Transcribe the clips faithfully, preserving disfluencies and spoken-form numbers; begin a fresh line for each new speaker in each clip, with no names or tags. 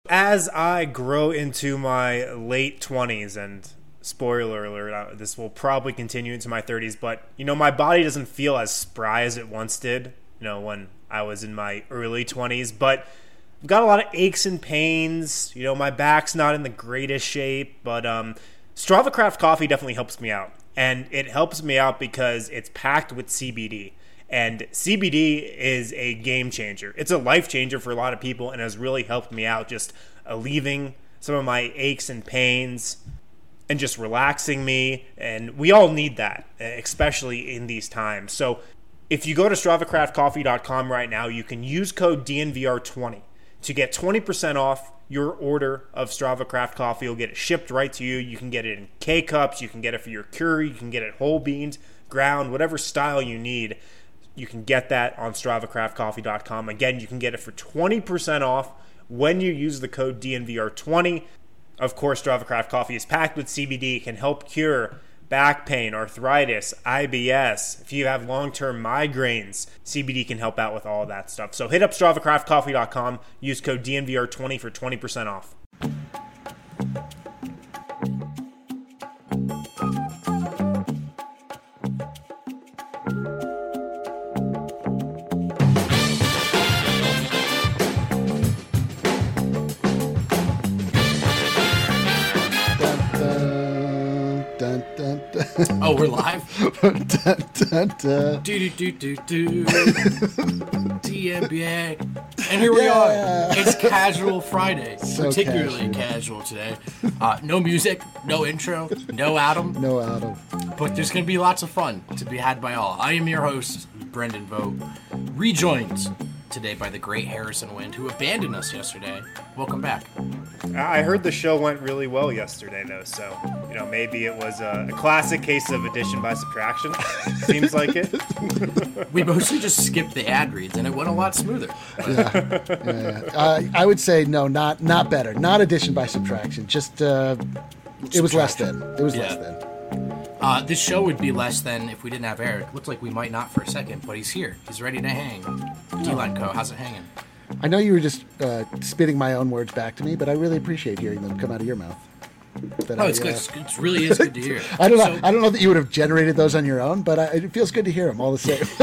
as I grow into my late twenties, and spoiler alert, uh, this will probably continue into my thirties, but, you know, my body doesn't feel as spry as it once did, you know, when I was in my early twenties, but I've got a lot of aches and pains. You know, my back's not in the greatest shape, but um, Strava Craft Coffee definitely helps me out. And it helps me out because it's packed with C B D. And C B D is a game changer. It's a life changer for a lot of people and has really helped me out, just alleviating some of my aches and pains and just relaxing me. And we all need that, especially in these times. So if you go to strava craft coffee dot com right now, you can use code D N V R twenty to get twenty percent off your order of Strava Craft Coffee. You'll get it shipped right to you. You can get it in K-Cups. You can get it for your curry. You can get it whole beans, ground, whatever style you need. You can get that on strava craft coffee dot com. Again, you can get it for twenty percent off when you use the code D N V R twenty. Of course, Strava Craft Coffee is packed with C B D. It can help cure back pain, arthritis, I B S. If you have long-term migraines, C B D can help out with all of that stuff. So hit up strava craft coffee dot com. Use code D N V R twenty for twenty percent off.
Oh, we're live?
dun, dun, dun.
Do do do do do. D N B A. And here we
Yeah.
are. It's Casual Friday.
So
particularly
casual.
casual today. Uh, no music, no intro, no Adam.
No, Adam.
But there's going to be lots of fun to be had by all. I am your host, Brendan Vogt, rejoined today by the great Harrison Wind, who abandoned us yesterday. Welcome back.
I heard the show went really well yesterday, though, so, you know, maybe it was a, a classic case of addition by subtraction. Seems like it.
We mostly just skipped the ad reads, and it went a lot smoother.
Yeah, yeah, yeah. Uh, I would say no, not not better, not addition by subtraction. Just uh, it was less than. It was
Yeah.
less than.
Uh, this show would be less than if we didn't have Eric. Looks like we might not for a second, but he's here. He's ready to hang. D-Line Co., how's it hanging?
I know you were just uh, spitting my own words back to me, but I really appreciate hearing them come out of your mouth. That
Oh,
I,
it's good.
uh,
It's good. It really is good to hear.
I don't know.
So,
I don't know that you would have generated those on your own, but I, it feels good to hear them all the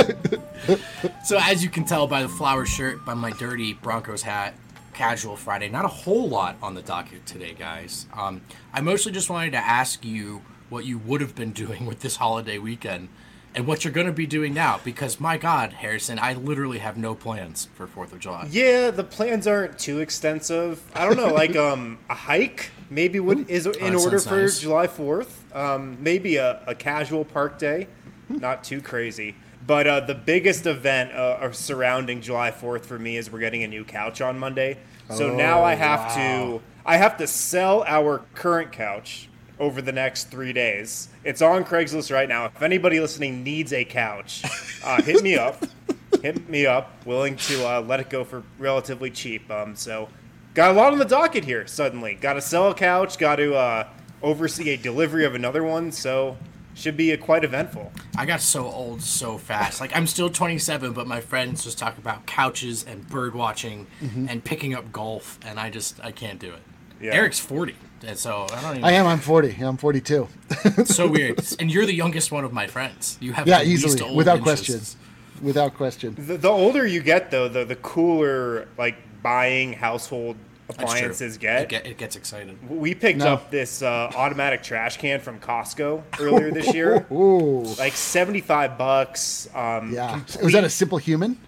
same.
so as you can tell by the flower shirt, by my dirty Broncos hat, Casual Friday, not a whole lot on the docket today, guys. Um, I mostly just wanted to ask you what you would have been doing with this holiday weekend and what you're going to be doing now, because my God, Harrison, I literally have no plans for fourth of July.
Yeah, the plans aren't too extensive. I don't know, like um, a hike maybe would is in
that
order
sounds
for
nice.
July fourth. Um, maybe a, a casual park day, not too crazy. But uh, the biggest event uh, surrounding July fourth for me is we're getting a new couch on Monday. So
Oh,
now I have
wow.
to I have to sell our current couch over the next three days. It's on Craigslist right now. If anybody listening needs a couch, uh, hit me up. Hit me up. Willing to uh, let it go for relatively cheap. Um, so got a lot on the docket here suddenly. Got to sell a couch. Got to uh, oversee a delivery of another one. So should be a quite eventful.
I got so old so fast. Like, I'm still twenty-seven, but my friends just talk about couches and bird watching and picking up golf, and I just, I can't do it.
Yeah.
Eric's forty, and so I don't even...
I am. I'm forty. I'm forty-two.
It's so weird. And you're the youngest one of my friends. You have
Yeah,
the least
easily,
old
without
interests.
question. Without question.
The, the older you get, though, the, the cooler like buying household
That's true.
appliances
It,
get.
get, it gets excited.
We picked
No.
up this uh, automatic trash can from Costco earlier this year.
Ooh.
Like seventy-five bucks. Um,
Yeah.
complete-
Was that a Simple Human?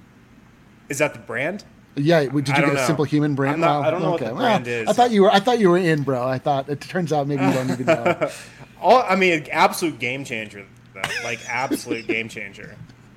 Is that the brand?
Yeah. Did you
I
get
don't
a
know.
Simple Human brand?
I'm not-
Well,
I don't know what
okay.
the
Well,
brand is.
I thought you were. I thought you were in, bro. I thought it turns out maybe you don't even know.
All, I mean, absolute game changer, though. Like, absolute game changer.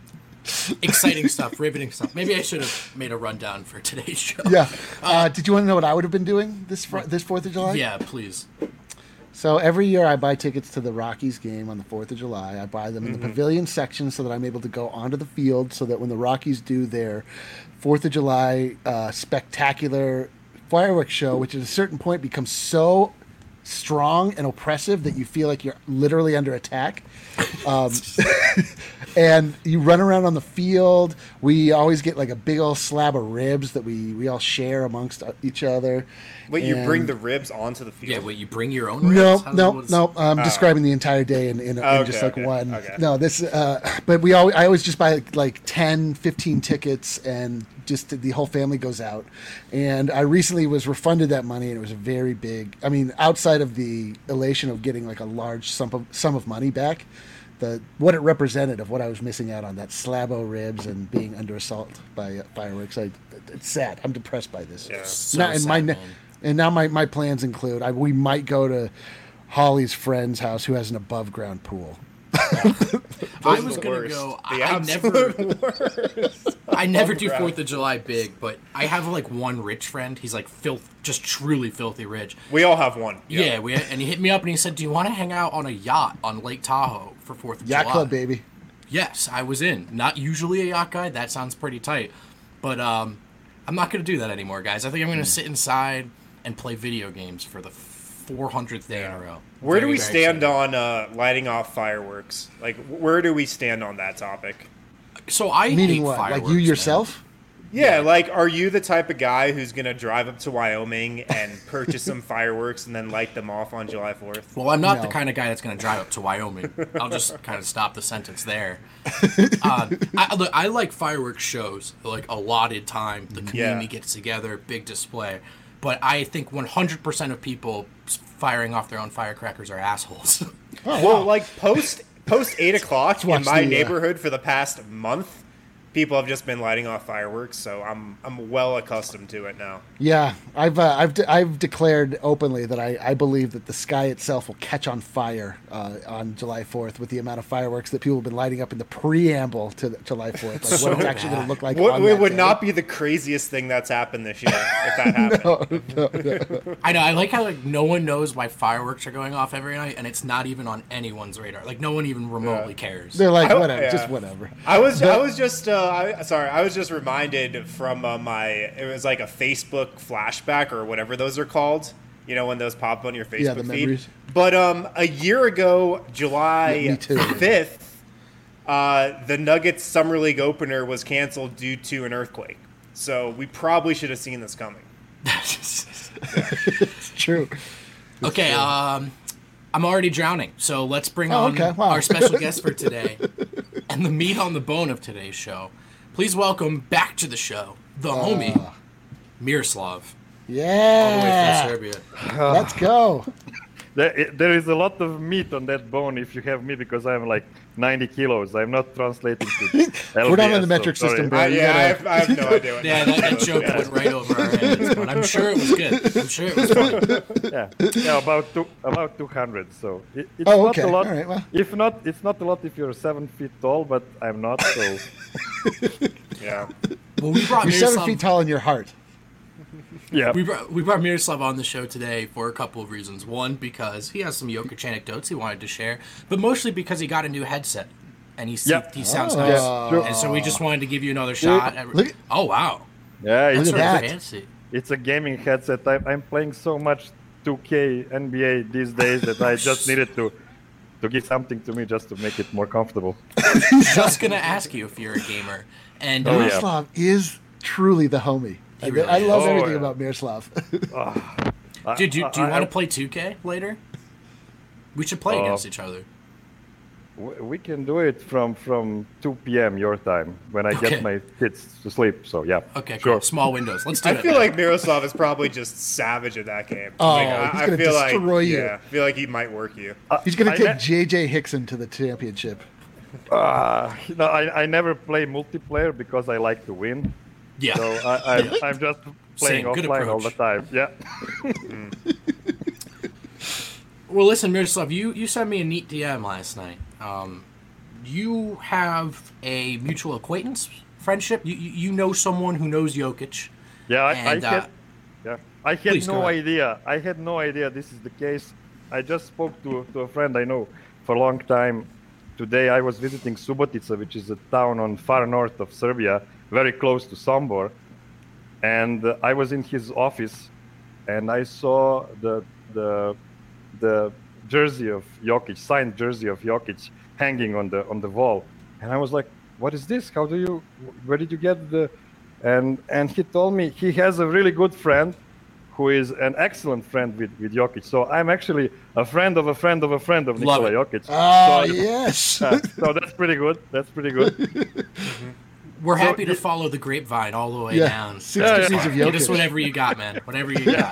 Exciting stuff, riveting stuff. Maybe I should have made a rundown for today's show.
Yeah. Uh, did you want to know what I would have been doing this fr- this Fourth of July?
Yeah, please.
So every year I buy tickets to the Rockies game on the fourth of July. I buy them in the pavilion section so that I'm able to go onto the field so that when the Rockies do their fourth of July uh, spectacular fireworks show, which at a certain point becomes so strong and oppressive that you feel like you're literally under attack. Um, and you run around on the field. We always get like a big old slab of ribs that we, we all share amongst each other.
Wait, you
And-
bring the ribs onto the field?
Yeah, wait, you bring your own ribs?
No,
How does-
no,
what's-
no. I'm describing the entire day in, in, in
Oh,
just
okay,
like
okay,
one.
okay.
No, this. Uh, but we always, I always just buy like ten, fifteen tickets, and just the whole family goes out. And I recently was refunded that money, and it was a very big. I mean, outside of the elation of getting like a large sum of sum of money back, the what it represented of what I was missing out on, that slabo ribs and being under assault by uh, fireworks. I, it's sad. I'm depressed by this.
Yeah.
So
Now- and
sad,
my
man.
and now my, my plans include I, we might go to Holly's friend's house who has an above ground pool.
I
Those are
was
the
gonna
worst.
go.
The
I, I
absolute
never,
worst.
I never do
ground.
Fourth of July big, but I have like one rich friend. He's like filth, just truly filthy rich.
We all have one.
Yeah, we and he hit me up and he said, "Do you want to hang out on a yacht on Lake Tahoe for Fourth of
Yacht
July?"
Club, baby.
Yes, I was in. Not usually a yacht guy. That sounds pretty tight, but um, I'm not gonna do that anymore, guys. I think I'm gonna sit inside and play video games for the four hundredth day in a row.
Where do
Very,
we
very
stand
excited.
on uh, lighting off fireworks? Like, where do we stand on that topic?
So I
Meaning
hate
what? Like
fireworks,
you
man.
yourself?
Yeah, like, are you the type of guy who's going to drive up to Wyoming and purchase some fireworks and then light them off on July fourth?
Well, I'm not the
No.
kind of guy that's going to drive up to Wyoming. I'll just kind of stop the sentence there. Uh, I, look, I like fireworks shows, like allotted time. The community
Yeah.
gets together, big display. But I think one hundred percent of people firing off their own firecrackers are assholes.
Well, like, post post eight o'clock in
watch
my
the, uh,
neighborhood for the past month, people have just been lighting off fireworks, so I'm I'm well accustomed to it now.
Yeah, I've uh, I've de- I've declared openly that I, I believe that the sky itself will catch on fire uh, on July fourth with the amount of fireworks that people have been lighting up in the preamble to the July fourth. Like
So
what it's actually going
bad.
to look like.
What
on
it
that
would
day.
not be the craziest thing that's happened this year if that happened.
I know. I like how like no one knows why fireworks are going off every night, and it's not even on anyone's radar. Like no one even remotely cares.
They're like
I-
whatever,
yeah.
just whatever.
I was I
But-
was just uh, I, sorry I was just reminded from uh, my it was like a Facebook flashback or whatever those are called. You know when those pop up on your Facebook
Yeah, the
feed.
memories.
But um, a year ago, July
Yeah, me too.
fifth, uh, the Nuggets summer league opener was canceled due to an earthquake. So we probably should have seen this coming.
It's true.
Okay, um, I'm already drowning, so let's bring
Oh,
on
okay, wow.
our special guest for today and the meat on the bone of today's show. Please welcome back to the show the homie Miroslav, all the way
Yeah,
from Serbia.
let's go.
There, there is a lot of meat on that bone if you have me because I'm like ninety kilos. I'm not translating to
We're not on the
L B S,
metric
so sorry.
system, bro.
Uh,
you
yeah, I
gotta-
have, I have no idea. What
Yeah, that, that joke went right over our heads, but I'm sure it was good. I'm sure it was fun.
Yeah, yeah, about two, about two hundred. So it, it's
Oh,
not
okay.
a lot.
All right, well.
If not, it's not a lot if you're seven feet tall, but I'm not. So
Yeah.
Well, we brought
You're seven
Miroslav.
feet tall in your heart.
yeah,
We brought, we brought Miroslav on the show today for a couple of reasons. One, because he has some Jokic anecdotes he wanted to share, but mostly because he got a new headset, and he
Yeah.
he sounds
Oh.
nice.
Yeah, sure.
And so we just wanted to give you another shot. at-
look-
oh wow,
yeah.
Look
It's,
at
sort of
that.
fancy.
it's a gaming headset. I'm, I'm playing so much two K N B A these days that I just needed to to give something to me just to make it more comfortable.
Just gonna ask you if you're a gamer, and
Oh, yeah.
Miroslav is truly the homie. I,
really
I love
is.
everything
Oh, yeah.
about Miroslav.
I-
dude, do, you- do you
I-
want to
I-
play two K later? We should play
Uh,
against each other.
w- We can do it from from two p.m. your time when I
Okay.
get my kids to sleep. So yeah.
Okay,
sure.
cool. Small windows. Let's do
I
it.
feel
man.
like Miroslav is probably just savage at that game.
Oh,
like, I,
he's
I
gonna
feel
destroy
like,
you.
Yeah, I feel like he might work you.
He's going
I
to take
ne-
J J Hickson to the championship.
Uh, no, I, I never play multiplayer because I like to win.
yeah.
So I, I'm, I'm just playing
Same, good
offline all the
approach.
time. Yeah.
Well, listen, Miroslav, you, you sent me a neat D M last night. Um, you have a mutual acquaintance friendship. You, you you know someone who knows Jokic.
Yeah, I,
And,
I
uh,
had, yeah, I had
please, go
no
ahead.
idea. I had no idea this is the case. I just spoke to, to a friend I know for a long time. Today I was visiting Subotica, which is a town on far north of Serbia, very close to Sombor. And uh, I was in his office, and I saw the the the jersey of Jokic, signed jersey of Jokic, hanging on the on the wall, and I was like, "What is this? How do you? Where did you get the?" And and he told me he has a really good friend, who is an excellent friend with with Jokic. So I'm actually a friend of a friend of a friend of
Love
Nikola
it.
Jokic.
Oh
so,
yes.
uh, so that's pretty good. That's pretty good.
We're
So
happy to
it-
follow the grapevine all the way
Yeah,
down.
six
Yeah,
degrees
yeah.
of
Get us
Jokic.
whatever you got, man. Whatever you got.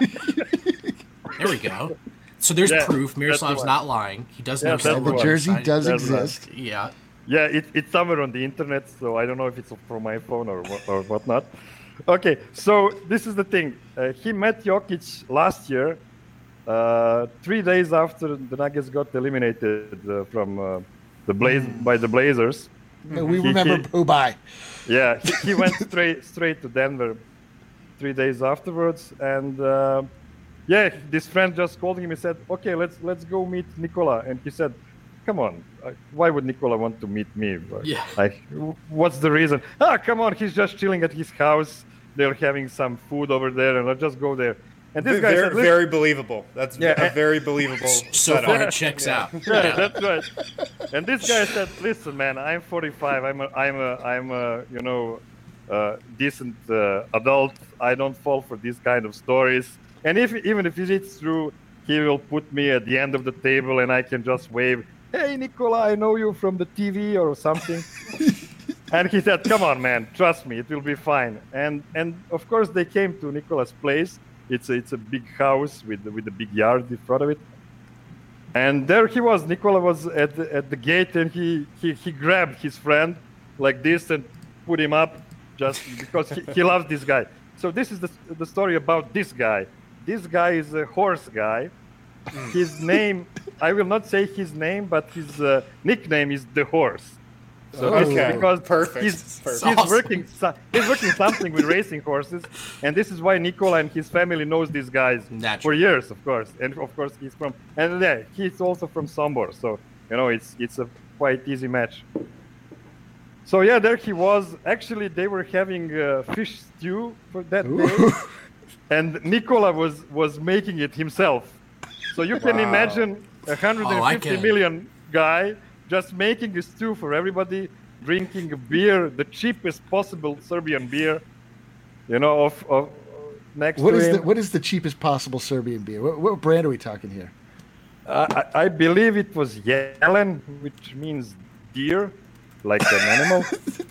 There we go. So there's
Yeah,
proof.
that's
Miroslav's
the one.
not lying. He does
Yeah,
know
that's the
The
something.
one.
jersey does
That's right.
exist.
Yeah.
Yeah, it, it's somewhere on the internet, so I don't know if it's from my phone or what, or whatnot. Okay, so this is the thing. Uh, he met Jokic last year, uh, three days after the Nuggets got eliminated uh, from uh, the Blaze by the Blazers.
And we
He-
remember
he-
Pubai.
Yeah, he, he went straight straight to Denver three days afterwards, and uh, yeah, this friend just called him and said, "Okay, let's let's go meet Nikola." And he said, "Come on, uh, why would Nikola want to meet me?
Yeah.
Like, w- what's the reason? Ah, come on, he's just chilling at his house. They're having some food over there, and let's just go there." And this guy
very,
said, "Listen."
very believable. That's
Yeah,
a
and-
very believable
So
setup.
far it checks out.
Yeah, that's right. And this guy said, "Listen, man, I'm forty-five. I'm a, I'm a, I'm a, you know, uh, decent uh, adult. I don't fall for these kind of stories. And if even if it's true, he will put me at the end of the table, and I can just wave, 'Hey, Nikola, I know you from the T V or something.'" And he said, "Come on, man, trust me, it will be fine." And and of course they came to Nikola's place. It's a, it's a big house with with a big yard in front of it. And there he was. Nikola was at the, at the gate, and he, he, he grabbed his friend like this and put him up just because he, he loves this guy. So this is the, the story about this guy. This guy is a horse guy. His name, I will not say his name, but his uh, nickname is the horse. So this is
Okay,
because
perfect,
he's,
perfect.
he's
Awesome.
working so- he's working something with racing horses, and this is why Nikola and his family knows these guys for
Naturally.
years, of course. And of course he's from and yeah, he's also from Sombor, so you know it's it's a quite easy match. So yeah, there he was. Actually, they were having uh, fish stew for that day, and Nikola was was making it himself. So you can
Wow.
imagine a hundred
Oh, I
and fifty
can.
million guy just making a stew for everybody, drinking a beer, the cheapest possible Serbian beer, you know, of, of next
What
to
is
him.
the what is the cheapest possible Serbian beer? What, what brand are we talking here?
Uh, I, I believe it was Jelen, which means deer, like an animal.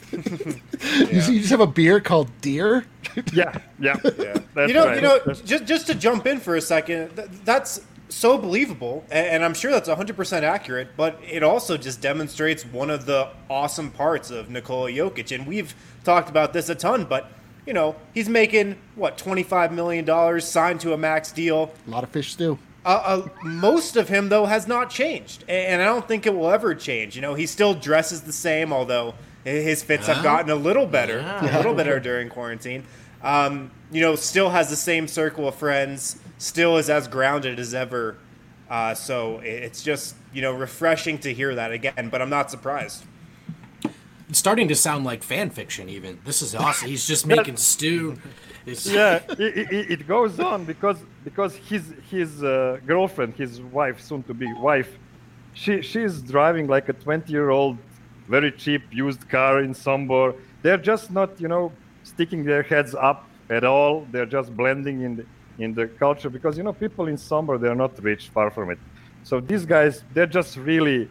You, you just have a beer called Deer?
yeah, yeah.
Yeah.
That's
you know,
right.
you know,
That's-
just just to jump in for a second, th- that's so believable, a- and I'm sure that's one hundred percent accurate. But it also just demonstrates one of the awesome parts of Nikola Jokic, and we've talked about this a ton. But you know, he's making what twenty-five million dollars, signed to a max deal.
A lot of fish stew.
Uh, uh, most of him, though, has not changed, a- and I don't think it will ever change. You know, he still dresses the same, although his fits have gotten a little better, a little better during quarantine. Um, you know, still has the same circle of friends, still is as grounded as ever. Uh, so it's just, you know, refreshing to hear that again, but I'm not surprised.
It's starting to sound like fan fiction even. This is awesome. He's just making stew. It's,
yeah, it, it, it goes on because because his his uh, girlfriend, his wife, soon to be wife, she she's driving like a twenty year old, very cheap used car in Sombor. They're just not you know sticking their heads up at all. They're just blending in the, in the culture because you know people in Sombor, they're not rich, far from it. So these guys, they're just really.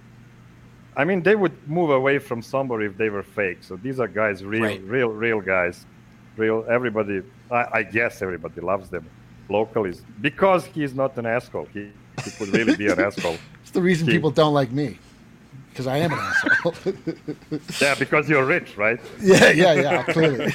I mean, they would move away from Sombor if they were fake. So these are guys, real,
Right.
real, real guys. Real, everybody, I, I guess everybody loves them. Local is because he's not an asshole. He, he could really be an asshole.
It's the reason
He-
people don't like me. Because I am an asshole.
Yeah, because you're rich, right?
yeah, yeah, yeah, clearly.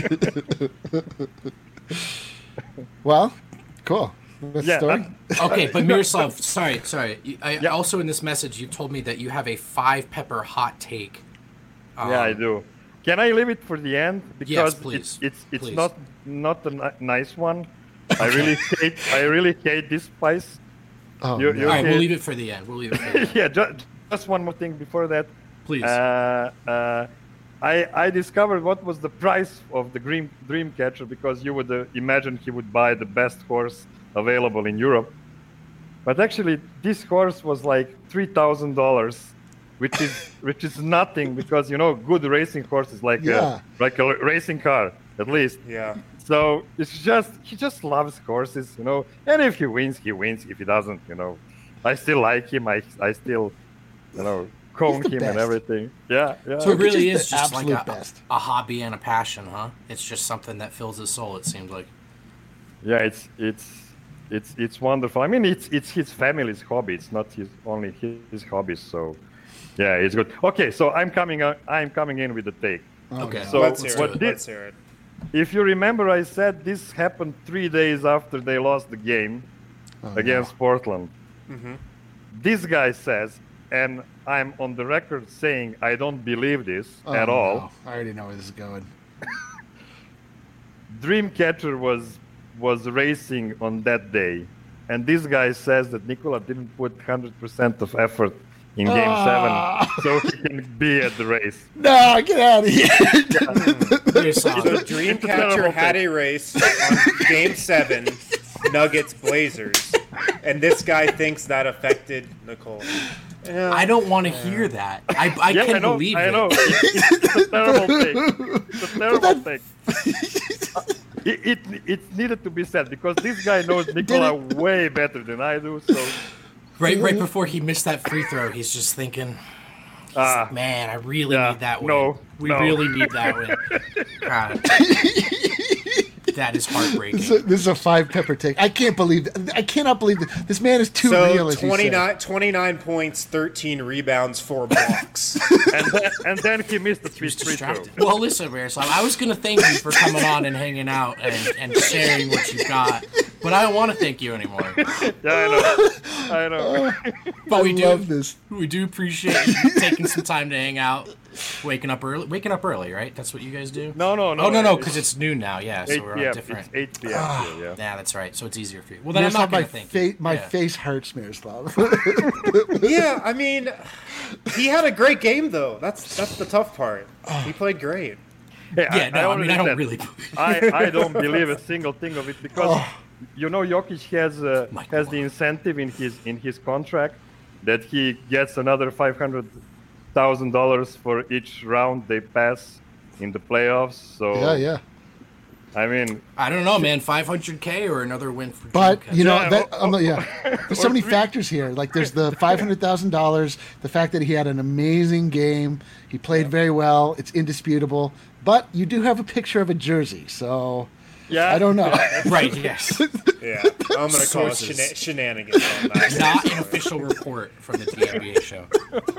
Well, cool. That's
Yeah,
the story.
Okay, but Miroslav, sorry, sorry. You- I,
Yeah.
Also, in this message, you told me that you have a five pepper hot take. Um,
yeah, I do. Can I leave it for the end? Because
Yes, please.
it's it's, it's
Please.
not not a ni- nice one. I really hate I really hate this spice.
Oh,
you-
no.
you-
All right, we'll
Okay.
leave it for the end. We'll leave it for the end.
Yeah, just, just one more thing before that.
Please.
Uh, uh, I I discovered what was the price of the dream Dreamcatcher because you would uh, imagine he would buy the best horse available in Europe, but actually this horse was like three thousand dollars, which is which is nothing because you know good racing horse is like
Yeah.
a like a racing car at least.
Yeah.
So it's just he just loves horses, you know. And if he wins, he wins. If he doesn't, you know, I still like him. I I still, you know, cone
He's the
him and
best.
everything. Yeah, yeah.
So it really
Jokic is
is
the
just like
absolute
a,
best.
a hobby and a passion, huh? It's just something that fills his soul. It seems like.
Yeah, it's it's it's it's wonderful. I mean, it's it's his family's hobby. It's not his only his, his hobby. So, yeah, it's good. Okay, so I'm coming out. I'm coming in with the take.
Okay,
So
Let's hear
what
it.
did-
Let's hear it.
If you remember, I said this happened three days after they lost the game
Oh,
against Portland.
Mm-hmm.
This guy says, and I'm on the record saying I don't believe this
no.
at
Oh,
all.
no. I already know where this is going.
Dreamcatcher was was racing on that day, and this guy says that Nikola didn't put one hundred percent of effort in Game
Ah.
Seven, so he can be at the race.
No, get out of here.
Very solid.
So
It's a
Dreamcatcher
terrible
had
thing.
a race on Game Seven, Nuggets Blazers, and this guy thinks that affected Nicole. Yeah.
I don't want to hear that. I, I
yeah,
can
I know,
believe
I
it.
know. It's a terrible thing. It's a terrible thing. It, it it needed to be said because this guy knows Nikola way better than I do. So
Right, right before he missed that free throw, he's just thinking,
ah,
"Man, I really
Yeah,
need that win.
no,
we
no.
really need that win." God, that is heartbreaking.
This is, a, this is a five pepper take. I can't believe that. I cannot believe that. This man is too
So
real. As you said.
twenty-nine, twenty-nine points, thirteen rebounds, four blocks.
and then, and then he missed the free
He's
free throw.
distracted. Well, listen, Miroslav, I was going to thank you for coming on and hanging out and, and sharing what you got, but I don't want to thank you anymore.
Yeah, I know. I know.
But we
I
do,
love this.
we do appreciate you taking some time to hang out, waking up early. Waking up early, right? That's what you guys do.
No, no, no.
Oh no, no, because it's noon now. Yeah, so
eight
we're
p.m.
on different.
It's eight p.m. here, yeah.
Yeah, that's right. So it's easier for you. Well, then I'm
Miroslav,
not going
my
to thank
fa-
you.
my
Yeah.
face hurts, Miroslav.
Yeah, I mean, he had a great game though. That's that's the tough part. He played great.
Hey,
Yeah, no, I, mean,
already
I don't
said,
really.
I, I don't believe a single thing of it because
Oh.
you know Jokic has uh,
My
has
God.
the incentive in his in his contract that he gets another five hundred thousand dollars for each round they pass in the playoffs. So
yeah, yeah.
I mean,
I don't know, man. five hundred K or another win for.
But
Dreamcatcher?
you know,
Yeah,
that,
or-
um, yeah. There's so
or
many
three-
factors here. Like, there's the five hundred thousand dollars, the fact that he had an amazing game, he played very well. It's indisputable. But you do have a picture of a jersey, so
yeah,
I don't know.
Right. Yes.
Yeah, I'm gonna call it
Sources.
shena- shenanigans on that.
Not an official report from the T N B A show.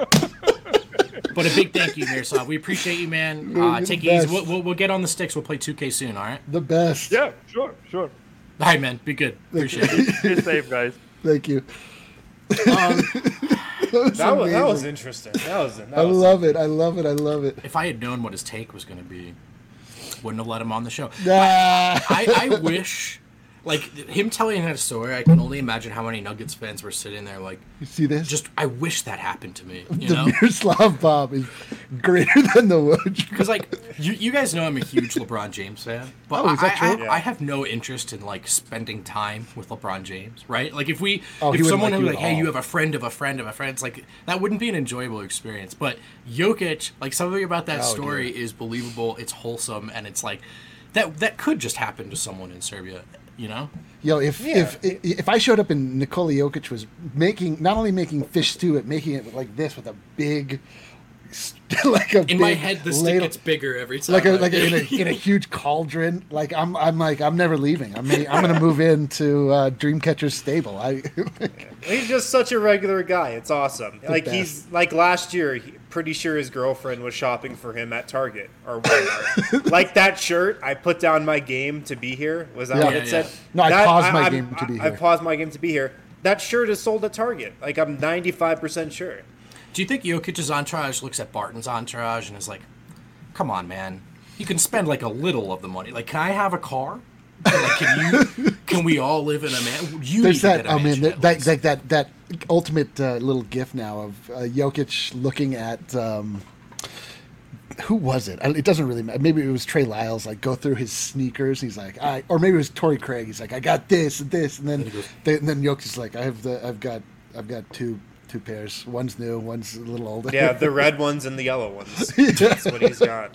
But a big thank you, Miroslav. We appreciate you, man.
You're
Uh,
the
take it easy.
best.
We'll, we'll, we'll get on the sticks. We'll play two K soon. All right.
The best.
Yeah, sure, sure.
All right, man. Be good. Appreciate it.
Be safe, guys.
Thank you.
Um,
That was,
That was, that was
amazing.
interesting. That was. That
I
was
love it. I love it. I love it.
if I had known what his take was going to be, wouldn't have let him on the show.
Nah.
I, I wish, like, him telling that story, I can only imagine how many Nuggets fans were sitting there, like,
You see this?
just, I wish that happened to me, you
the
know?
Miroslav Bob is greater than the Woj.
Because, like, you, you guys know I'm a huge LeBron James fan, but
Oh, is that
I, I,
true?
I have no interest in, like, spending time with LeBron James, right? Like, if we,
Oh, he
if
wouldn't
someone
like
was
you
like,
at
hey,
all.
you have a friend of a friend of a friend, it's like, that wouldn't be an enjoyable experience. But Jokic, like, something about that
Oh,
story is believable, it's wholesome, and it's like, that that could just happen to someone in Serbia, you know?
Yo, if,
Yeah.
if if if I showed up and Nikola Jokic was making not only making fish stew, but making it like this with a big, like a
In
big
my head, the stick
ladle-
gets bigger every time.
like a
I-
like a, in a in a huge cauldron. Like I'm I'm like I'm never leaving. I'm I'm gonna move into uh, Dreamcatcher's stable. I
He's just such a regular guy. It's awesome. like
best.
he's like last year. He, pretty sure his girlfriend was shopping for him at Target or Walmart. Like that shirt. I put down my game to be here. Was that
Yeah.
what
Yeah,
it said?
yeah.
No, I
That-
paused my
I'm-
game to be
I, I
here.
paused my game to be here. That shirt is sold at Target. Like I'm ninety-five percent sure.
Do you think Jokic's entourage looks at Barton's entourage and is like, "Come on, man, you can spend like a little of the money. Like, can I have a car? Like, can you? Can we all live in a man? You
there's
need to
that.
get a
I mean,
mansion
that
at
that,
least."
that that that ultimate uh, little gif now of uh, Jokic looking at. Um, who was it? I- It doesn't really matter. Maybe it was Trey Lyles. Like go through his sneakers. He's like, I, or maybe it was Torrey Craig. He's like, I got this and this, and then
And he goes-
they, and then Jokic's like, I have the, I've got, I've got two two pairs. One's new, one's a little older.
Yeah, the red ones and the yellow ones. That's what he's got.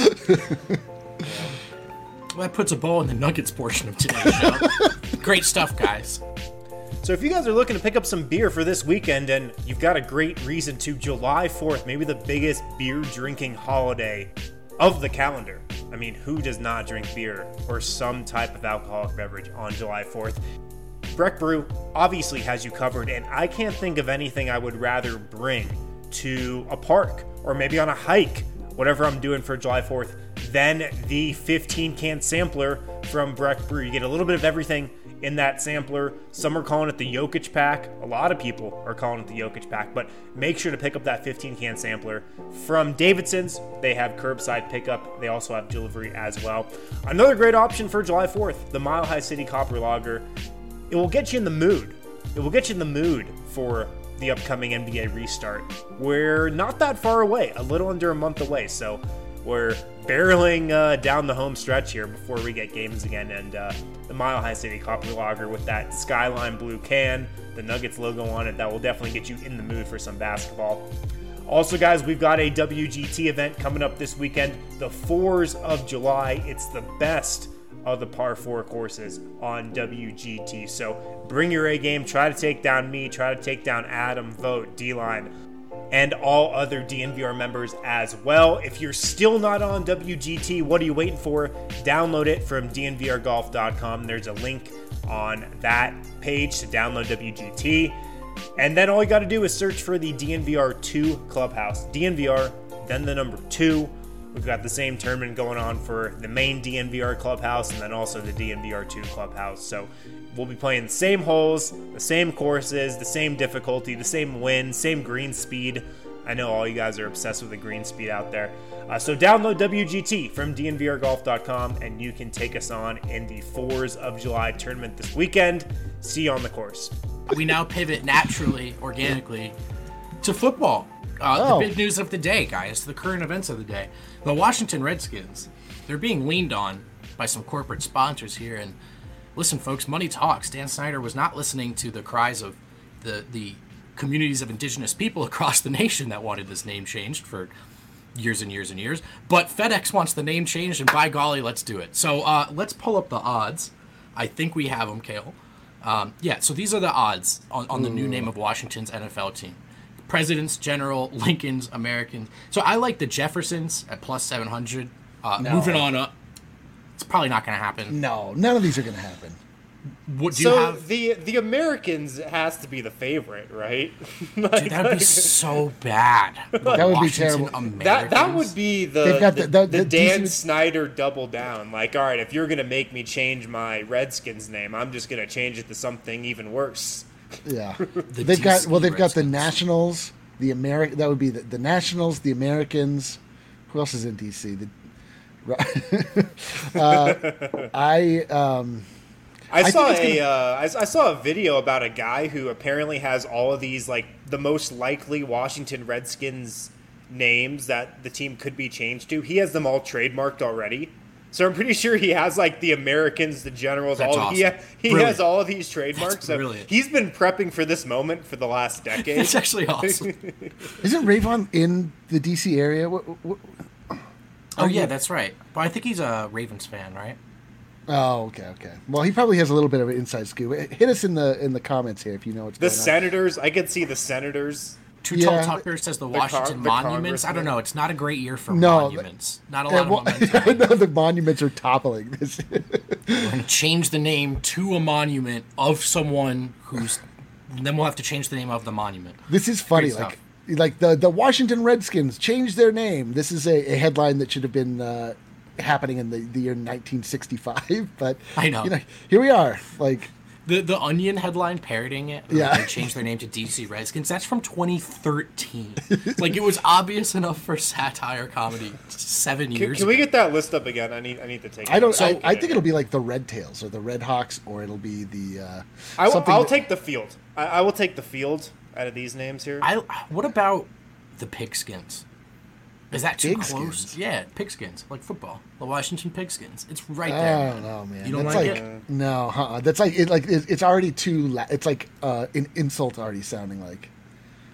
Well, that puts a bow in the Nuggets portion of today's show. Great stuff, guys.
So if you guys are looking to pick up some beer for this weekend and you've got a great reason to, July fourth, maybe the biggest beer drinking holiday of the calendar. I mean, who does not drink beer or some type of alcoholic beverage on July fourth? Breck Brew obviously has you covered, and I can't think of anything I would rather bring to a park or maybe on a hike, whatever I'm doing for July fourth, than the fifteen can sampler from Breck Brew. You get a little bit of everything in that sampler. Some are calling it the Jokic pack. A lot of people are calling it the Jokic pack, but make sure to pick up that fifteen can sampler from Davidson's. They have curbside pickup. They also have delivery as well. Another great option for July fourth, the Mile High City Copper Lager. It will get you in the mood. It will get you in the mood for the upcoming N B A restart. We're not that far away, a little under a month away, so we're barreling uh, down the home stretch here before we get games again. And uh, the Mile High City Copper Lager with that skyline blue can, the Nuggets logo on it, that will definitely get you in the mood for some basketball. Also, guys, we've got a W G T event coming up this weekend, the fours of July. It's the best of the par four courses on W G T. So bring your A game, try to take down me, try to take down Adam, Vote, D-Line, and all other D N V R members as well. If you're still not on W G T, what are you waiting for? Download it from D N V R golf dot com. There's a link on that page to download W G T. And then all you got to do is search for the D N V R two Clubhouse. D N V R, then the number two. We've got the same tournament going on for the main D N V R Clubhouse and then also the D N V R two Clubhouse. So we'll be playing the same holes, the same courses, the same difficulty, the same wind, same green speed. I know all you guys are obsessed with the green speed out there. Uh, so download W G T from D N V R golf dot com and you can take us on in the fours of July tournament this weekend. See you on the course.
We now pivot naturally, organically, to football. Uh,
Oh.
The big news of the day, guys, the current events of the day. The Washington Redskins, they're being leaned on by some corporate sponsors here. And listen, folks, money talks. Dan Snyder was not listening to the cries of the, the communities of indigenous people across the nation that wanted this name changed for years and years and years. But FedEx wants the name changed, and by golly, let's do it. So uh, let's pull up the odds. I think we have them, Cale. Um, yeah, so these are the odds on, on the new name of Washington's N F L team. Presidents, General, Lincolns, Americans. So I like the Jeffersons at plus seven hundred. Uh,
No.
Moving on up. It's probably not going to happen.
No, none of these are going to happen.
What do you
So
have?
the the Americans has to be the favorite, right? Like,
Dude, that would be so bad. The
That would be
Washington
terrible.
That that
Americans.
would be the
They've got
the,
the- the-
the
the
Dan
decent-
Snyder double down. Like, all right, if you're gonna make me change my Redskins name, I'm just gonna change it to something even worse.
Yeah,
The
they've got
D C
well, they've got the
Redskins.
Nationals, the American. That would be the, the Nationals, the Americans. Who else is in D C? The, uh, I um,
I,
think
saw
it's
a
gonna-
uh, I, I saw a video about a guy who apparently has all of these, like, the most likely Washington Redskins names that the team could be changed to. He has them all trademarked already. So I'm pretty sure he has, like, the Americans, the Generals,
That's
all he,
awesome.
he
Brilliant.
has all of these trademarks.
That's
So
brilliant.
he's been prepping for this moment for the last decade.
It's actually awesome.
isn't Rayvon in the D C area? What, what,
Oh, yeah, that's right. But I think he's a Ravens fan, right?
oh, okay, okay. Well, he probably has a little bit of an inside scoop. Hit us in the in the comments here if you know what's
The
going on.
Senators, I could see the Senators.
Too
Yeah.
Tall Tucker says the
The
Washington
Con- the
Monuments. I don't know. It's not a great year for
No,
monuments. Not a
Yeah,
lot
well,
of momentum.
no, the monuments are toppling. This.
We're going to change the name to a monument of someone who's... Then we'll have to change the name of the monument.
This is funny.
Great
Like, like the the Washington Redskins changed their name. This is a, a headline that should have been uh, happening in the, the year nineteen sixty-five. But
I know.
You know, here we are. Like,
The the Onion headline parodying it,
Yeah.
they changed their name to D C Redskins. That's from twenty thirteen. Like, it was obvious enough for satire comedy seven
Can,
years
can we
ago.
get that list up again? I need I need to take.
I don't.
it.
I, I think it'll be like the Red Tails or the Red Hawks, or it'll be the. Uh,
I,
something
will
that-
take the field. I, I will take the field out of these names here.
I, what about the Pigskins? Is that too
Pigskins?
close? Yeah, Pigskins, like football. The Washington Pigskins. It's right
I
there.
don't know, man.
You don't
That's
like
like,
it?
No, uh-uh. That's like it. Like it, it's already too. La- it's like uh, an insult already sounding like.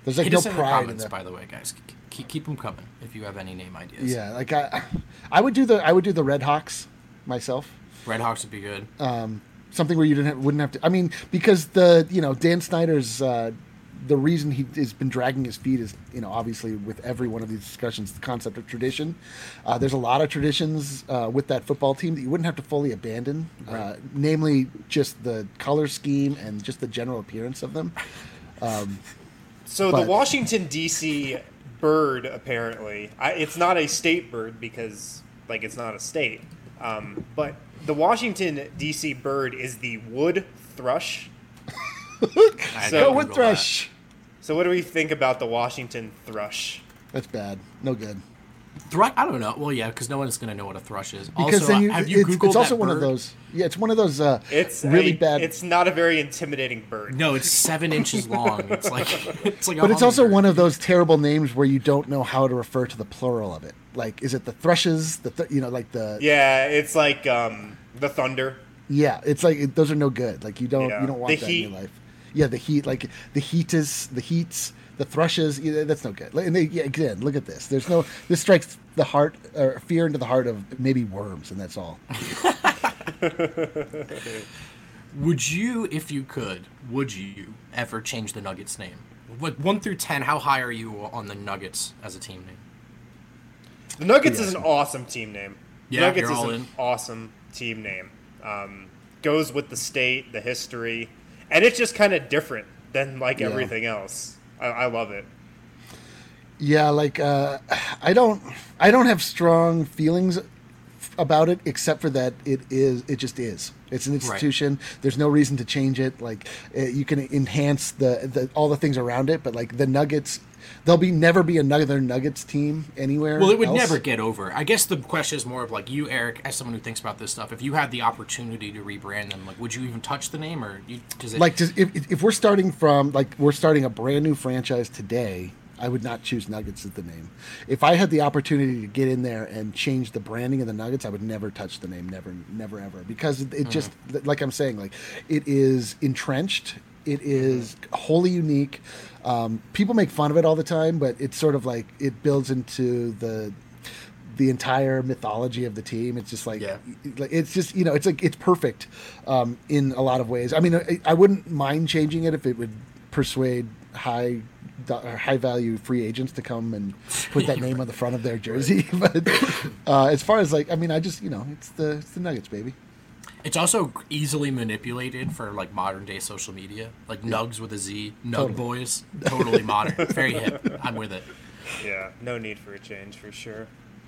There's like
Hit
no
us in the
pride in
comments,
that.
by the way, guys. Keep, keep them coming if you have any name ideas.
Yeah, like I, I would do the I would do the Red Hawks myself.
Red Hawks would be good.
Something where you didn't have, wouldn't have to. I mean, because the you know Dan Snyder's uh, the reason he has been dragging his feet is you know obviously with every one of these discussions the concept of tradition. Uh, there's a lot of traditions uh, with that football team that you wouldn't have to fully abandon,
Right.
uh, namely just the color scheme and just the general appearance of them.
So
But-
the Washington D C bird, apparently, I, it's not a state bird because, like, it's not a state. Um, but the Washington D C bird is the wood thrush.
I
So-
had to
Go
Google
with
that.
Thrush.
So what do we think about the Washington thrush?
That's bad. No good.
Thrush? I don't know. Well, yeah, because no one is going to know what a thrush is.
Because
also,
then you,
have you
it's,
Googled
it's also
that
one of
bird?
those. Yeah, it's one of those uh,
It's
really
a-
bad.
It's not a very intimidating bird.
No, it's seven inches long. It's like it's like. A
But it's also
hummingbird.
one of those terrible names where you don't know how to refer to the plural of it. Like, is it the thrushes? The th- you know, like the yeah.
Yeah, it's like um, the thunder.
it's like it, those are no good. Like you don't
Yeah.
you don't want
The
that
heat.
in your life. Yeah, the heat, like the heat is the heats, the thrushes. Yeah, that's no good. Like, and they, yeah, again, look at this. There's no. This strikes the heart or fear into the heart of maybe worms, and that's all.
Would you, if you could, would you ever change the Nuggets name? What one through ten? How high are you on the Nuggets as a team name?
The Nuggets
Yeah.
is an awesome team name. The
Yeah,
Nuggets
you're
is
all
an
in.
awesome team name. Um, goes with the state, the history, and it's just kind of different than like
Yeah.
everything else. I, I love it.
Yeah, like uh, I don't, I don't have strong feelings about it, except for that it is, it just is. It's an institution. There's no reason to change it. Like uh, you can enhance the, the all the things around it, but like the Nuggets, there'll be never be another Nuggets team anywhere.
Well, it would
else.
never get over. I guess the question is more of like you, Eric, as someone who thinks about this stuff. If you had the opportunity to rebrand them, like, would you even touch the name, or you, does it?
Like just, if if we're starting from like we're starting a brand new franchise today, I would not choose Nuggets as the name. If I had the opportunity to get in there and change the branding of the Nuggets, I would never touch the name, never, never, ever, because it, it just, like I'm saying, like it is entrenched. It is wholly unique. Um, people make fun of it all the time, but it's sort of like it builds into the the entire mythology of the team. It's just like,
Yeah.
like it's just you know, it's like it's perfect um, in a lot of ways. I mean, I, I wouldn't mind changing it if it would persuade high do- or high value free agents to come and put that name on the front of their jersey. But uh, as far as like, I mean, I just you know, it's the it's the Nuggets, baby.
It's also easily manipulated for like modern day social media, like Nugs with a Z, Nug
Totally.
Boys, totally modern, very hip. I'm with it.
Yeah, no need for a change for sure.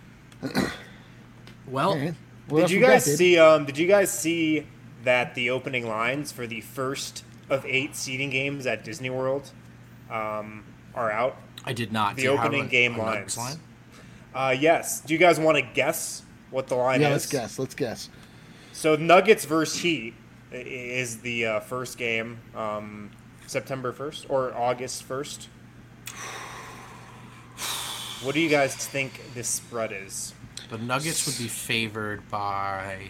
Well,
All right. What
Did
else
you
we got,
guys
baby?
see? Um, did you guys see that the opening lines for the first of eight seeding games at Disney World um, are out?
I did not.
The
Do you have
opening
a-
game
a Nuggets
lines. Uh, yes. Do you guys want to guess what the line
Yeah,
is?
let's guess. Let's guess.
So Nuggets versus Heat i- is the uh, first game, um, September first or August first. What do you guys think this spread is?
The Nuggets would be favored by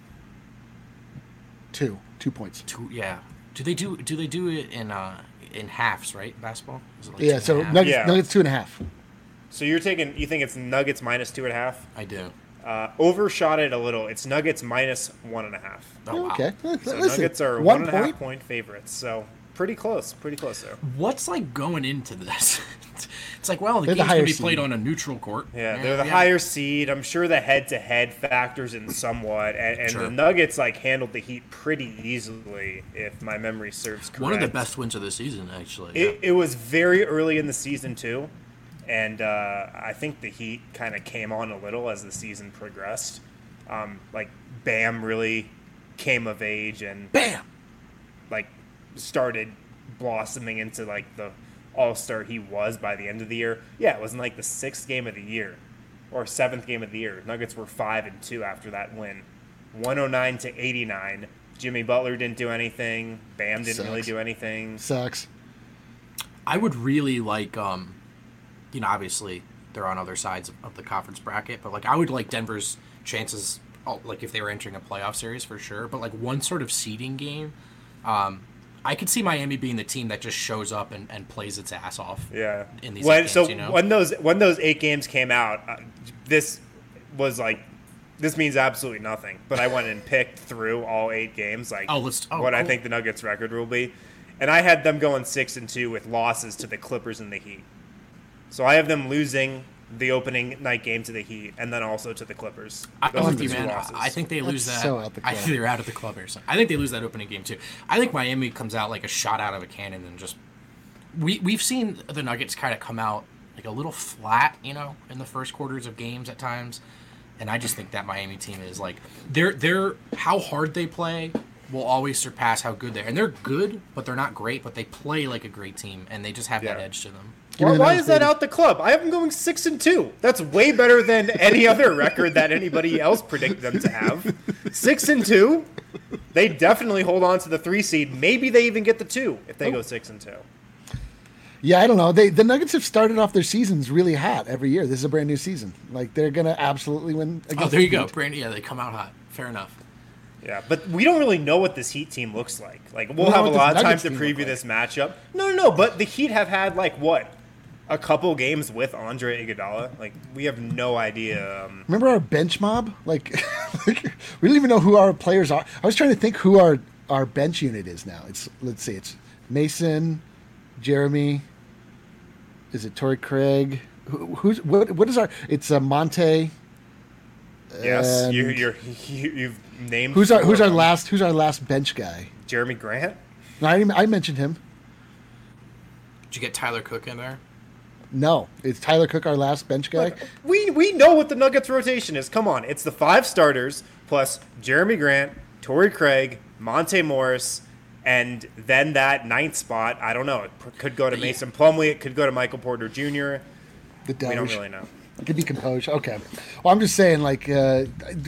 Two, two points.
two. Yeah. Do they do? Do they do it in uh in halves? Right, basketball. Is it like two
Yeah,
and
so
a half?
Nuggets,
Yeah.
Nuggets two and a half.
So you're taking, you think it's Nuggets minus two and a half?
I do.
Uh, overshot it a little. It's Nuggets minus one and a half.
Oh, wow.
Okay,
So
listen,
Nuggets are
one
one and a half
point.
point favorites. So pretty close, pretty close there.
What's like going into this? It's like, well, the
They're the
game's gonna
higher
be played
seed.
on a neutral court.
Yeah, they're the
yeah.
higher seed. I'm sure the head-to-head factors in somewhat, and, and
Sure.
the Nuggets like handled the Heat pretty easily, if my memory serves correct.
One of the best wins of the season, actually.
It, it was very early in the season too, and uh, I think the Heat kind of came on a little as the season progressed. Um, like Bam really came of age and
Bam.
like started blossoming into like the all-star he was by the end of the year. Yeah, it wasn't like the sixth game of the year or seventh game of the year. Nuggets were five and two after that win, one oh nine to eighty-nine. Jimmy Butler didn't do anything. Bam didn't really
Sucks.
do anything.
Sucks.
I would really like, um, you know, obviously they're on other sides of, of the conference bracket, but like I would like Denver's chances, oh, like if they were entering a playoff series for sure. But like one sort of seeding game, um, I could see Miami being the team that just shows up and, and plays its ass off.
Yeah.
In these
when,
games,
so
you know?
when those when those eight games came out, uh, this was like this means absolutely nothing. But I went and picked through all eight games, like
oh, let's, oh,
what
cool.
I think the Nuggets record will be, and I had them going six and two with losses to the Clippers and the Heat. So I have them losing the opening night game to the Heat, and then also to the Clippers.
I,
Those
I'm
are
with
the
you,
two
man.
losses.
I think they lose
That's
that.
so out the
I
club.
think they're out of the club or something. I think they lose that opening game too. I think Miami comes out like a shot out of a cannon and just. We we've seen the Nuggets kind of come out like a little flat, you know, in the first quarters of games at times, and I just think that Miami team is like they're they're how hard they play will always surpass how good they are, and they're good, but they're not great, but they play like a great team, and they just have that
Yeah.
edge to them.
Give me
Why,
the
why
Nuggets,
is that
baby.
out the club? I have them going six and two. That's way better than any other record that anybody else predicted them to have. Six and two. They definitely hold on to the three seed. Maybe they even get the two if they go six and two.
Yeah, I don't know. They the Nuggets have started off their seasons really hot every year. This is a brand new season. Like they're gonna absolutely win. Against
Oh, there you
the
go,
Heat.
Brandon. Yeah, they come out hot. Fair enough.
Yeah, but we don't really know what this Heat team looks like. Like we'll
We
have
know
a
what
lot
this
of time
Nuggets
to
team look
preview
like.
this matchup. No, no, no. But the Heat have had like what, a couple games with Andre Iguodala. Like we have no idea. Um,
Remember our bench mob? Like, like we don't even know who our players are. I was trying to think who our our bench unit is now. It's let's see, it's Mason, Jeremy. Is it Torrey Craig? Who, who's what? What is our? It's uh, Monte.
yes,
and
you, you're you, you've named.
Who's our
four
Who's
of
our
them.
last Who's our last bench guy?
Jeremy Grant.
No, I, didn't- I mentioned him.
Did you get Tyler Cook in there?
No, is Tyler Cook our last bench guy?
We we know what the Nuggets rotation is. Come on, it's the five starters plus Jeremy Grant, Torrey Craig, Monte Morris, and then that ninth spot. I don't know. It p- could go to Mason Plumlee. It could go to Michael Porter Junior
The
We don't
Doge.
really know.
It could be composed. Okay. Well, I'm just saying, like, uh,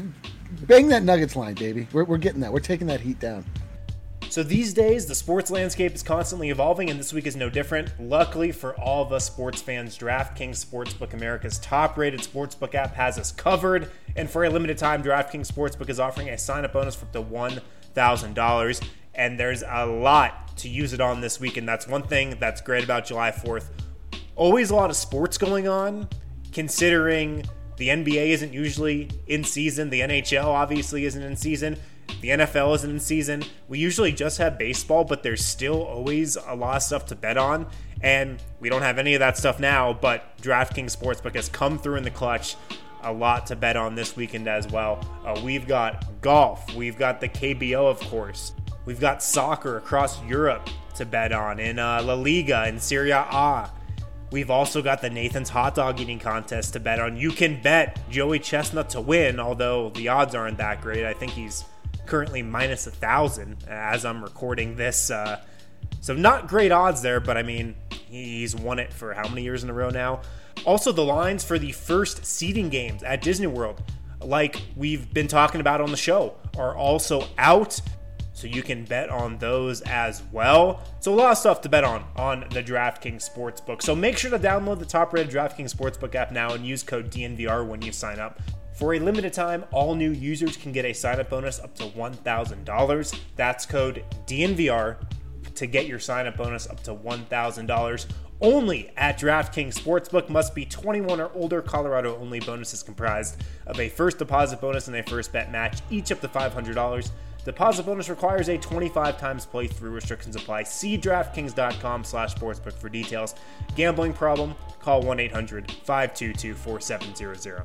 bang that Nuggets line, baby. We're we're getting that. We're taking that heat down.
So these days, the sports landscape is constantly evolving, and this week is no different. Luckily for all of us sports fans, DraftKings Sportsbook, America's top-rated sportsbook app, has us covered. And for a limited time, DraftKings Sportsbook is offering a sign-up bonus for up to one thousand dollars. And there's a lot to use it on this week, and that's one thing that's great about July fourth. Always a lot of sports going on, considering the N B A isn't usually in season. The N H L obviously isn't in season. The N F L isn't in season. We usually just have baseball, but there's still always a lot of stuff to bet on. And we don't have any of that stuff now, but DraftKings Sportsbook has come through in the clutch. A lot to bet on this weekend as well. Uh, we've got golf. We've got the K B O, of course. We've got soccer across Europe to bet on in uh, La Liga and Serie A. We've also got the Nathan's Hot Dog Eating Contest to bet on. You can bet Joey Chestnut to win, although the odds aren't that great. I think he's currently minus a thousand as I'm recording this. Uh, so not great odds there, but I mean, he's won it for how many years in a row now? Also, the lines for the first seeding games at Disney World, like we've been talking about on the show, are also out. So you can bet on those as well. So a lot of stuff to bet on on the DraftKings Sportsbook. So make sure to download the top-rated DraftKings Sportsbook app now and use code D N V R when you sign up. For a limited time, all new users can get a sign-up bonus up to one thousand dollars. That's code D N V R to get your sign-up bonus up to one thousand dollars. Only at DraftKings Sportsbook. Must be twenty-one or older. Colorado only. Bonus is comprised of a first deposit bonus and a first bet match, each up to five hundred dollars. Deposit bonus requires a twenty-five times playthrough. Restrictions apply. See DraftKings.com slash sportsbook for details. Gambling problem? Call one eight hundred five two two four seven zero zero.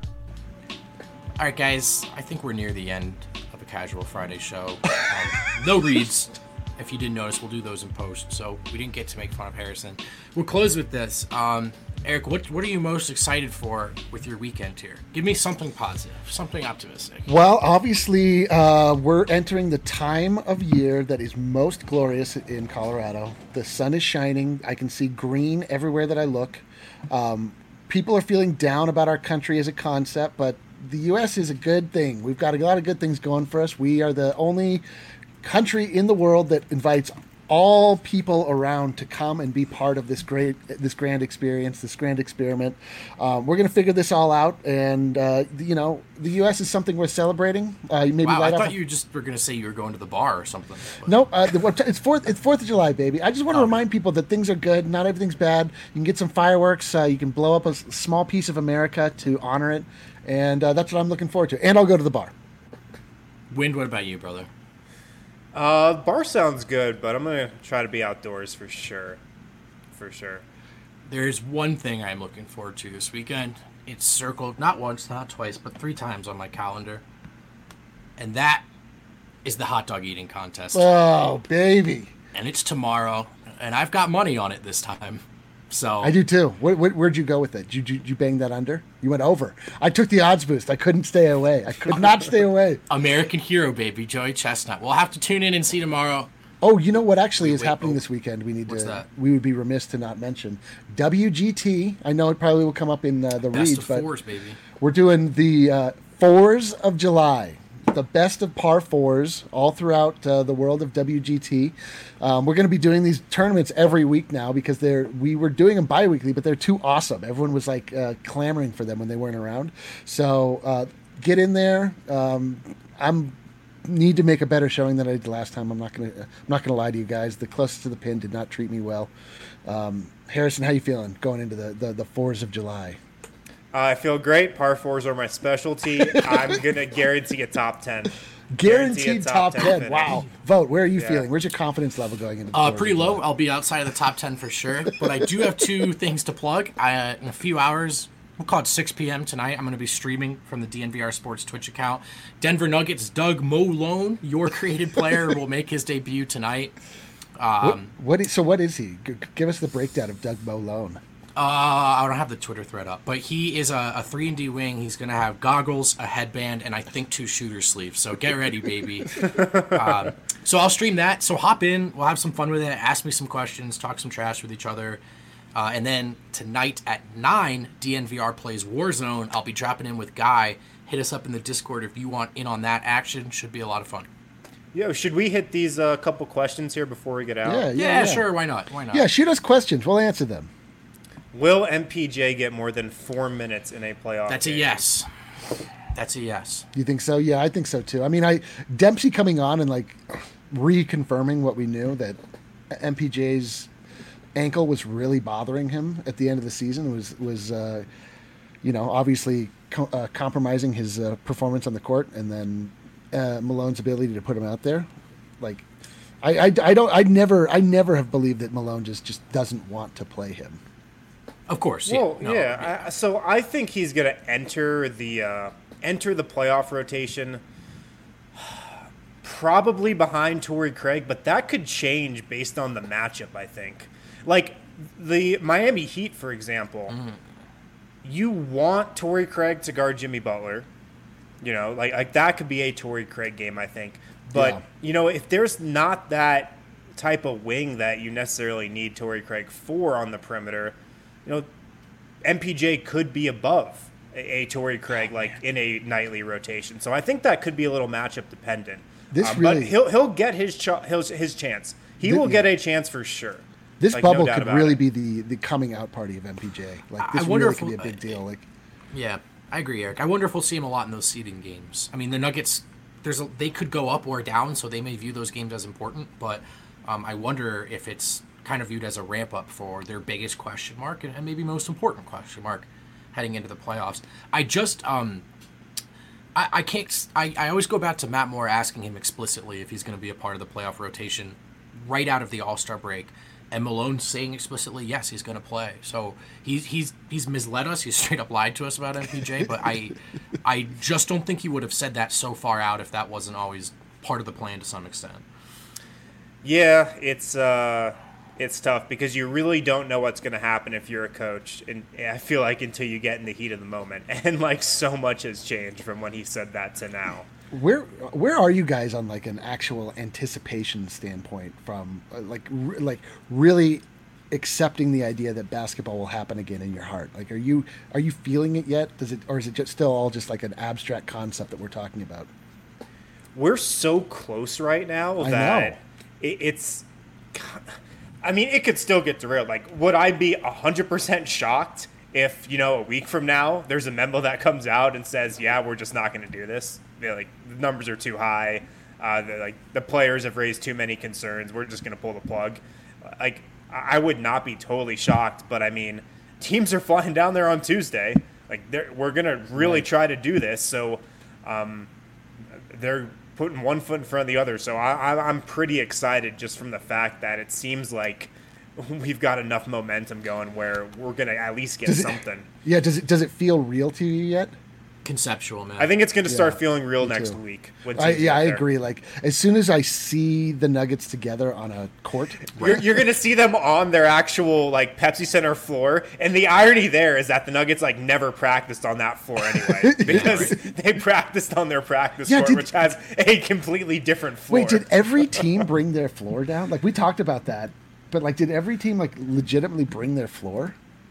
All right, guys, I think we're near the end of a Casual Friday show. Um, no reads. If you didn't notice, we'll do those in post. So we didn't get to make fun of Harrison. We'll close with this. Um, Eric, what what are you most excited for with your weekend here? Give me something positive, something optimistic.
Well, obviously, uh, we're entering the time of year that is most glorious in Colorado. The sun is shining. I can see green everywhere that I look. Um, people are feeling down about our country as a concept, but the U S is a good thing. We've got a lot of good things going for us. We are the only country in the world that invites all people around to come and be part of this great, this grand experience, this grand experiment. Um, we're going to figure this all out, and uh, you know, the U S is something worth celebrating. Uh, maybe
wow,
light
I
up
thought
a-
you just were going to say you were going to the bar or something. but-
Nope, uh, the, it's fourth. It's Fourth of July, baby. I just want to
Oh.
remind people that things are good. Not everything's bad. You can get some fireworks. Uh, you can blow up a s- small piece of America to honor it, and uh, that's what I'm looking forward to. And I'll go to the bar.
Wind, what about you, brother?
Uh, bar sounds good, but I'm gonna try to be outdoors for sure, for sure.
There's one thing I'm looking forward to this weekend. It's circled not once, not twice, but three times on my calendar. And that is the hot dog eating contest.
Oh, baby.
And it's tomorrow, and I've got money on it this time. So
I do too. Where, where, where'd you go with it? Did you, did you bang that under? You went over. I took the odds boost. I couldn't stay away. I could not stay away.
American hero, baby, Joey Chestnut. We'll have to tune in and see tomorrow.
Oh, you know what actually is
wait,
happening
oh.
this weekend? We need
What's
to.
that?
We would be remiss to not mention W G T. I know it probably will come up in uh, the
Best
reads,
of
but
fours, baby.
we're doing the uh, fours of July, the best of par fours all throughout uh, the world of W G T. Um, we're going to be doing these tournaments every week now because they're we were doing them bi-weekly, but they're too awesome. Everyone was like uh, clamoring for them when they weren't around. So uh, get in there. Um, I'm need to make a better showing than I did the last time. I'm not gonna I'm not gonna lie to you guys. The closest to the pin did not treat me well. Um, Harrison, how you feeling going into the the, the fours of July?
Uh, I feel great. Par fours are my specialty. I'm gonna guarantee a top ten.
Guaranteed
a
top, ten.
finish.
Wow. Vote. Where are you
Yeah.
feeling? Where's your confidence level going into? The
Uh,
fours
pretty
of
low.
July?
I'll be outside of the top ten for sure. But I do have two things to plug. I, uh, in a few hours, we'll call it six p.m. tonight, I'm going to be streaming from the D N V R Sports Twitch account. Denver Nuggets Doug Malone, your created player, will make his debut tonight. Um,
What is, so what is he? G- give us the breakdown of Doug Malone.
Uh, I don't have the Twitter thread up, but he is a, a three and D wing. He's going to have goggles, a headband, and I think two shooter sleeves. So get ready, baby. um, so I'll stream that. So hop in. We'll have some fun with it. Ask me some questions. Talk some trash with each other. Uh, and then tonight at nine, D N V R plays Warzone. I'll be dropping in with Guy. Hit us up in the Discord if you want in on that action. Should be a lot of fun.
Yo, should we hit these uh, couple questions here before we get out?
Yeah, yeah,
Yeah,
yeah.
sure. Why not? Why not?
Yeah, shoot us questions. We'll answer them.
Will M P J get more than four minutes in a playoff
That's a
game?
yes. That's a yes.
You think so? Yeah, I think so too. I mean, I Dempsey coming on and like reconfirming what we knew, that M P J's ankle was really bothering him at the end of the season, was was uh, you know, obviously co- uh, compromising his uh, performance on the court, and then uh, Malone's ability to put him out there. Like, I, I, I don't I never I never have believed that Malone just just doesn't want to play him.
Of course. Yeah.
Well,
No,
yeah. I, so I think he's gonna enter the uh, enter the playoff rotation, probably behind Torrey Craig, but that could change based on the matchup. I think, like the Miami Heat, for example.
Mm-hmm.
You want Torrey Craig to guard Jimmy Butler. You know, like like that could be a Torrey Craig game, I think. But
Yeah.
you know, if there's not that type of wing that you necessarily need Torrey Craig for on the perimeter, you know, M P J could be above a, a Torrey Craig like in a nightly rotation. So I think that could be a little matchup dependent.
This
Um,
really-
but he'll he'll get his ch- his, his chance. He
Thi-
will get a chance for sure.
This
Like, no
bubble
doubt
could
about
really
it.
be the, the coming out party of M P J. Like, this
I wonder
really
if
could be a
we'll-
big deal. Like,
Yeah, I agree, Eric. I wonder if we'll see him a lot in those seeding games. I mean, the Nuggets, there's a, they could go up or down, so they may view those games as important. But um, I wonder if it's kind of viewed as a ramp up for their biggest question mark and, and maybe most important question mark heading into the playoffs. I just, um, I, I can't. I, I always go back to Matt Moore asking him explicitly if he's going to be a part of the playoff rotation right out of the All Star break. And Malone saying explicitly, yes, he's going to play. So he's he's he's misled us. He's straight up lied to us about M P J. But I I just don't think he would have said that so far out if that wasn't always part of the plan to some extent.
Yeah, it's uh, it's tough because you really don't know what's going to happen if you're a coach, and I feel like until you get in the heat of the moment, and like so much has changed from when he said that to now.
where where are you guys on like an actual anticipation standpoint from uh, like re- like really accepting the idea that basketball will happen again in your heart? Like, are you are you feeling it yet? Does it, or is it just still all just like an abstract concept that we're talking about?
We're so close right now
I
that
know.
It, it's I mean, it could still get derailed. Like, would I be one hundred percent shocked if, you know, a week from now, there's a memo that comes out and says, yeah, we're just not going to do this? They're like, the numbers are too high. Uh, like, the players have raised too many concerns. We're just going to pull the plug. Like, I would not be totally shocked, but I mean, teams are flying down there on Tuesday. Like, we're going to really right. try to do this. So um, they're putting one foot in front of the other. So I, I'm pretty excited just from the fact that it seems like we've got enough momentum going where we're going to at least get
does
something.
It, yeah, does it does it feel real to you yet?
Conceptual, man.
I think it's going to start
yeah,
feeling real next
too.
week.
I, yeah, I agree. Like, as soon as I see the Nuggets together on a court,
you're, you're going to see them on their actual like Pepsi Center floor, and the irony there is that the Nuggets like never practiced on that floor anyway because yeah, right. they practiced on their practice yeah, court, did, which has a completely different floor.
Wait, did every team bring their floor down? Like, we talked about that, but like, did every team like legitimately bring their floor?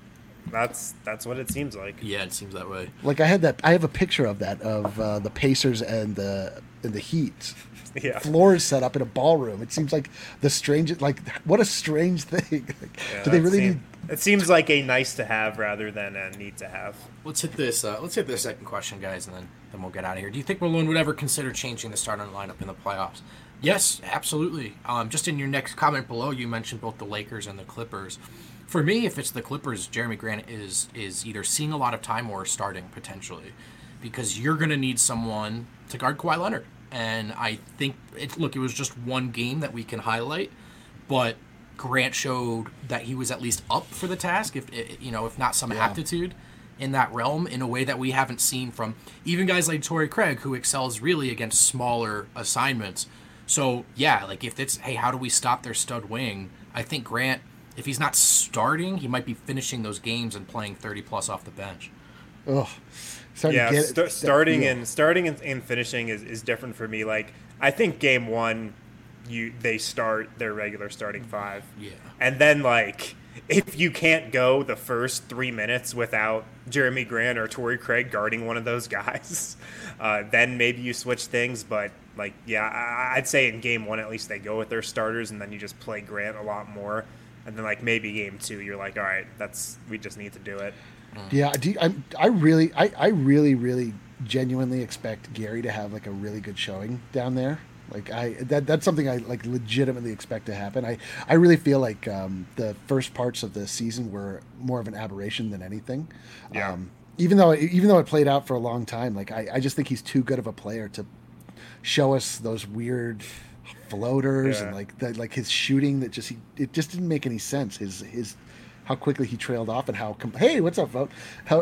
That's that's what it seems like.
Yeah, it seems that way.
Like I had that. I have a picture of that of uh, the Pacers and the and the Heat.
Yeah,
floors set up in a ballroom. It seems like the strangest. Like what a strange thing. Like,
yeah,
do they really
seem,
need?
It seems like a nice to have rather than a need to have.
Let's hit this. Uh, let's hit this second question, guys, and then then we'll get out of here. Do you think Malone would ever consider changing the starting lineup in the playoffs? Yes, absolutely. Um, just in your next comment below, you mentioned both the Lakers and the Clippers. For me, if it's the Clippers, Jeremy Grant is is either seeing a lot of time or starting potentially, because you're going to need someone to guard Kawhi Leonard. And I think, it, look, it was just one game that we can highlight, but Grant showed that he was at least up for the task, if you know, if not some yeah. aptitude in that realm, in a way that we haven't seen from even guys like Torrey Craig, who excels really against smaller assignments. So yeah, like if it's, hey, how do we stop their stud wing? I think Grant, if he's not starting, he might be finishing those games and playing thirty plus off the bench.
Oh,
yeah, st- starting yeah. and starting and, and finishing is, is different for me. Like I think game one, you they start their regular starting five.
Yeah,
and then like if you can't go the first three minutes without Jeremy Grant or Torrey Craig guarding one of those guys, uh, then maybe you switch things. But like, yeah, I, I'd say in game one at least they go with their starters, and then you just play Grant a lot more. And then, like, maybe game two, you're like, all right, that's we just need to do it.
Yeah, do you, I, I really, I, I really, really genuinely expect Gary to have, like, a really good showing down there. Like, I that that's something I, like, legitimately expect to happen. I, I really feel like um, the first parts of the season were more of an aberration than anything.
Yeah.
Um, even though even though it played out for a long time, like, I, I just think he's too good of a player to show us those weird floaters yeah. and like the, like his shooting that just he, it just didn't make any sense. His his how quickly he trailed off and how hey what's up, vote? How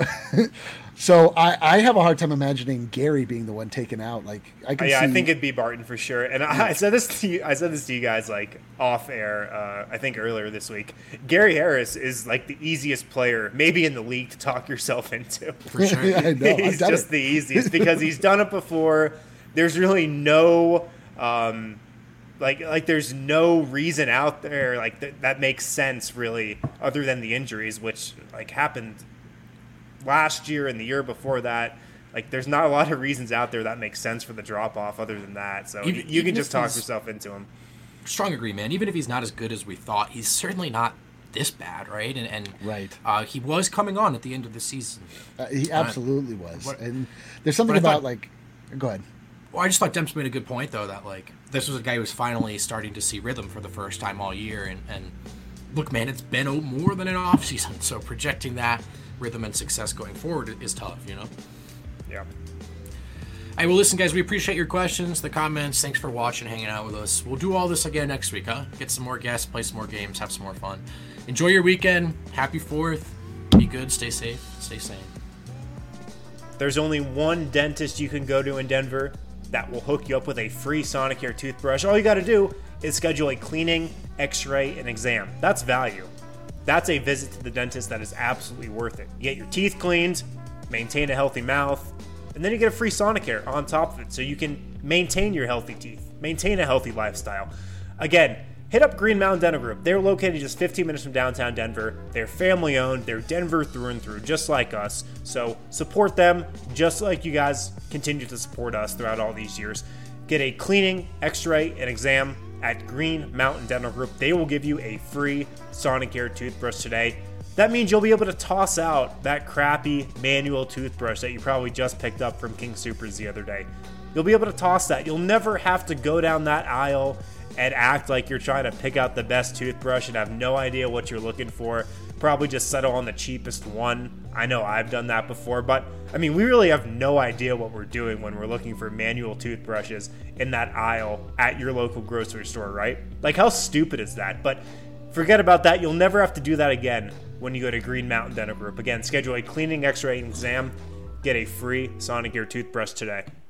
so I, I have a hard time imagining Gary being the one taken out. Like I can
yeah
see,
I think it'd be Barton for sure. And I, I said this to you, I said this to you guys like off air. Uh, I think earlier this week. Gary Harris is like the easiest player maybe in the league to talk yourself into.
For sure,
yeah, I know.
He's just
it.
the easiest because he's done it before. There's really no. Um, Like, like, there's no reason out there like th- that makes sense really, other than the injuries, which like happened last year and the year before that. Like, there's not a lot of reasons out there that make sense for the drop off, other than that. So even, you can just talk yourself into him.
Strong agree, man. Even if he's not as good as we thought, he's certainly not this bad, right? And and
right,
uh, he was coming on at the end of the season.
Uh, he absolutely uh, was.
But,
and there's something about thought, like, go ahead.
Well, I just thought Demps made a good point, though, that, like, this was a guy who was finally starting to see rhythm for the first time all year. And, and look, man, it's been more than an offseason, so projecting that rhythm and success going forward is tough, you know?
Yeah.
Hey, well, listen, guys, we appreciate your questions, the comments. Thanks for watching, hanging out with us. We'll do all this again next week, huh? Get some more guests, play some more games, have some more fun. Enjoy your weekend. Happy fourth. Be good, stay safe, stay sane.
There's only one dentist you can go to in Denver that will hook you up with a free Sonicare toothbrush. All you got to do is schedule a cleaning, x-ray, and exam. That's value. That's a visit to the dentist that is absolutely worth it. You get your teeth cleaned, maintain a healthy mouth, and then you get a free Sonicare on top of it so you can maintain your healthy teeth, maintain a healthy lifestyle. Again, hit up Green Mountain Dental Group. They're located just fifteen minutes from downtown Denver. They're family owned. They're Denver through and through, just like us. So support them just like you guys continue to support us throughout all these years. Get a cleaning, x-ray, and exam at Green Mountain Dental Group. They will give you a free Sonicare toothbrush today. That means you'll be able to toss out that crappy manual toothbrush that you probably just picked up from King Soopers the other day. You'll be able to toss that. You'll never have to go down that aisle and act like you're trying to pick out the best toothbrush and have no idea what you're looking for. Probably just settle on the cheapest one. I know I've done that before, but I mean, we really have no idea what we're doing when we're looking for manual toothbrushes in that aisle at your local grocery store, right? Like, how stupid is that? But forget about that. You'll never have to do that again when you go to Green Mountain Dental Group. Again, schedule a cleaning, x-ray, and exam. Get a free Sonicare toothbrush today.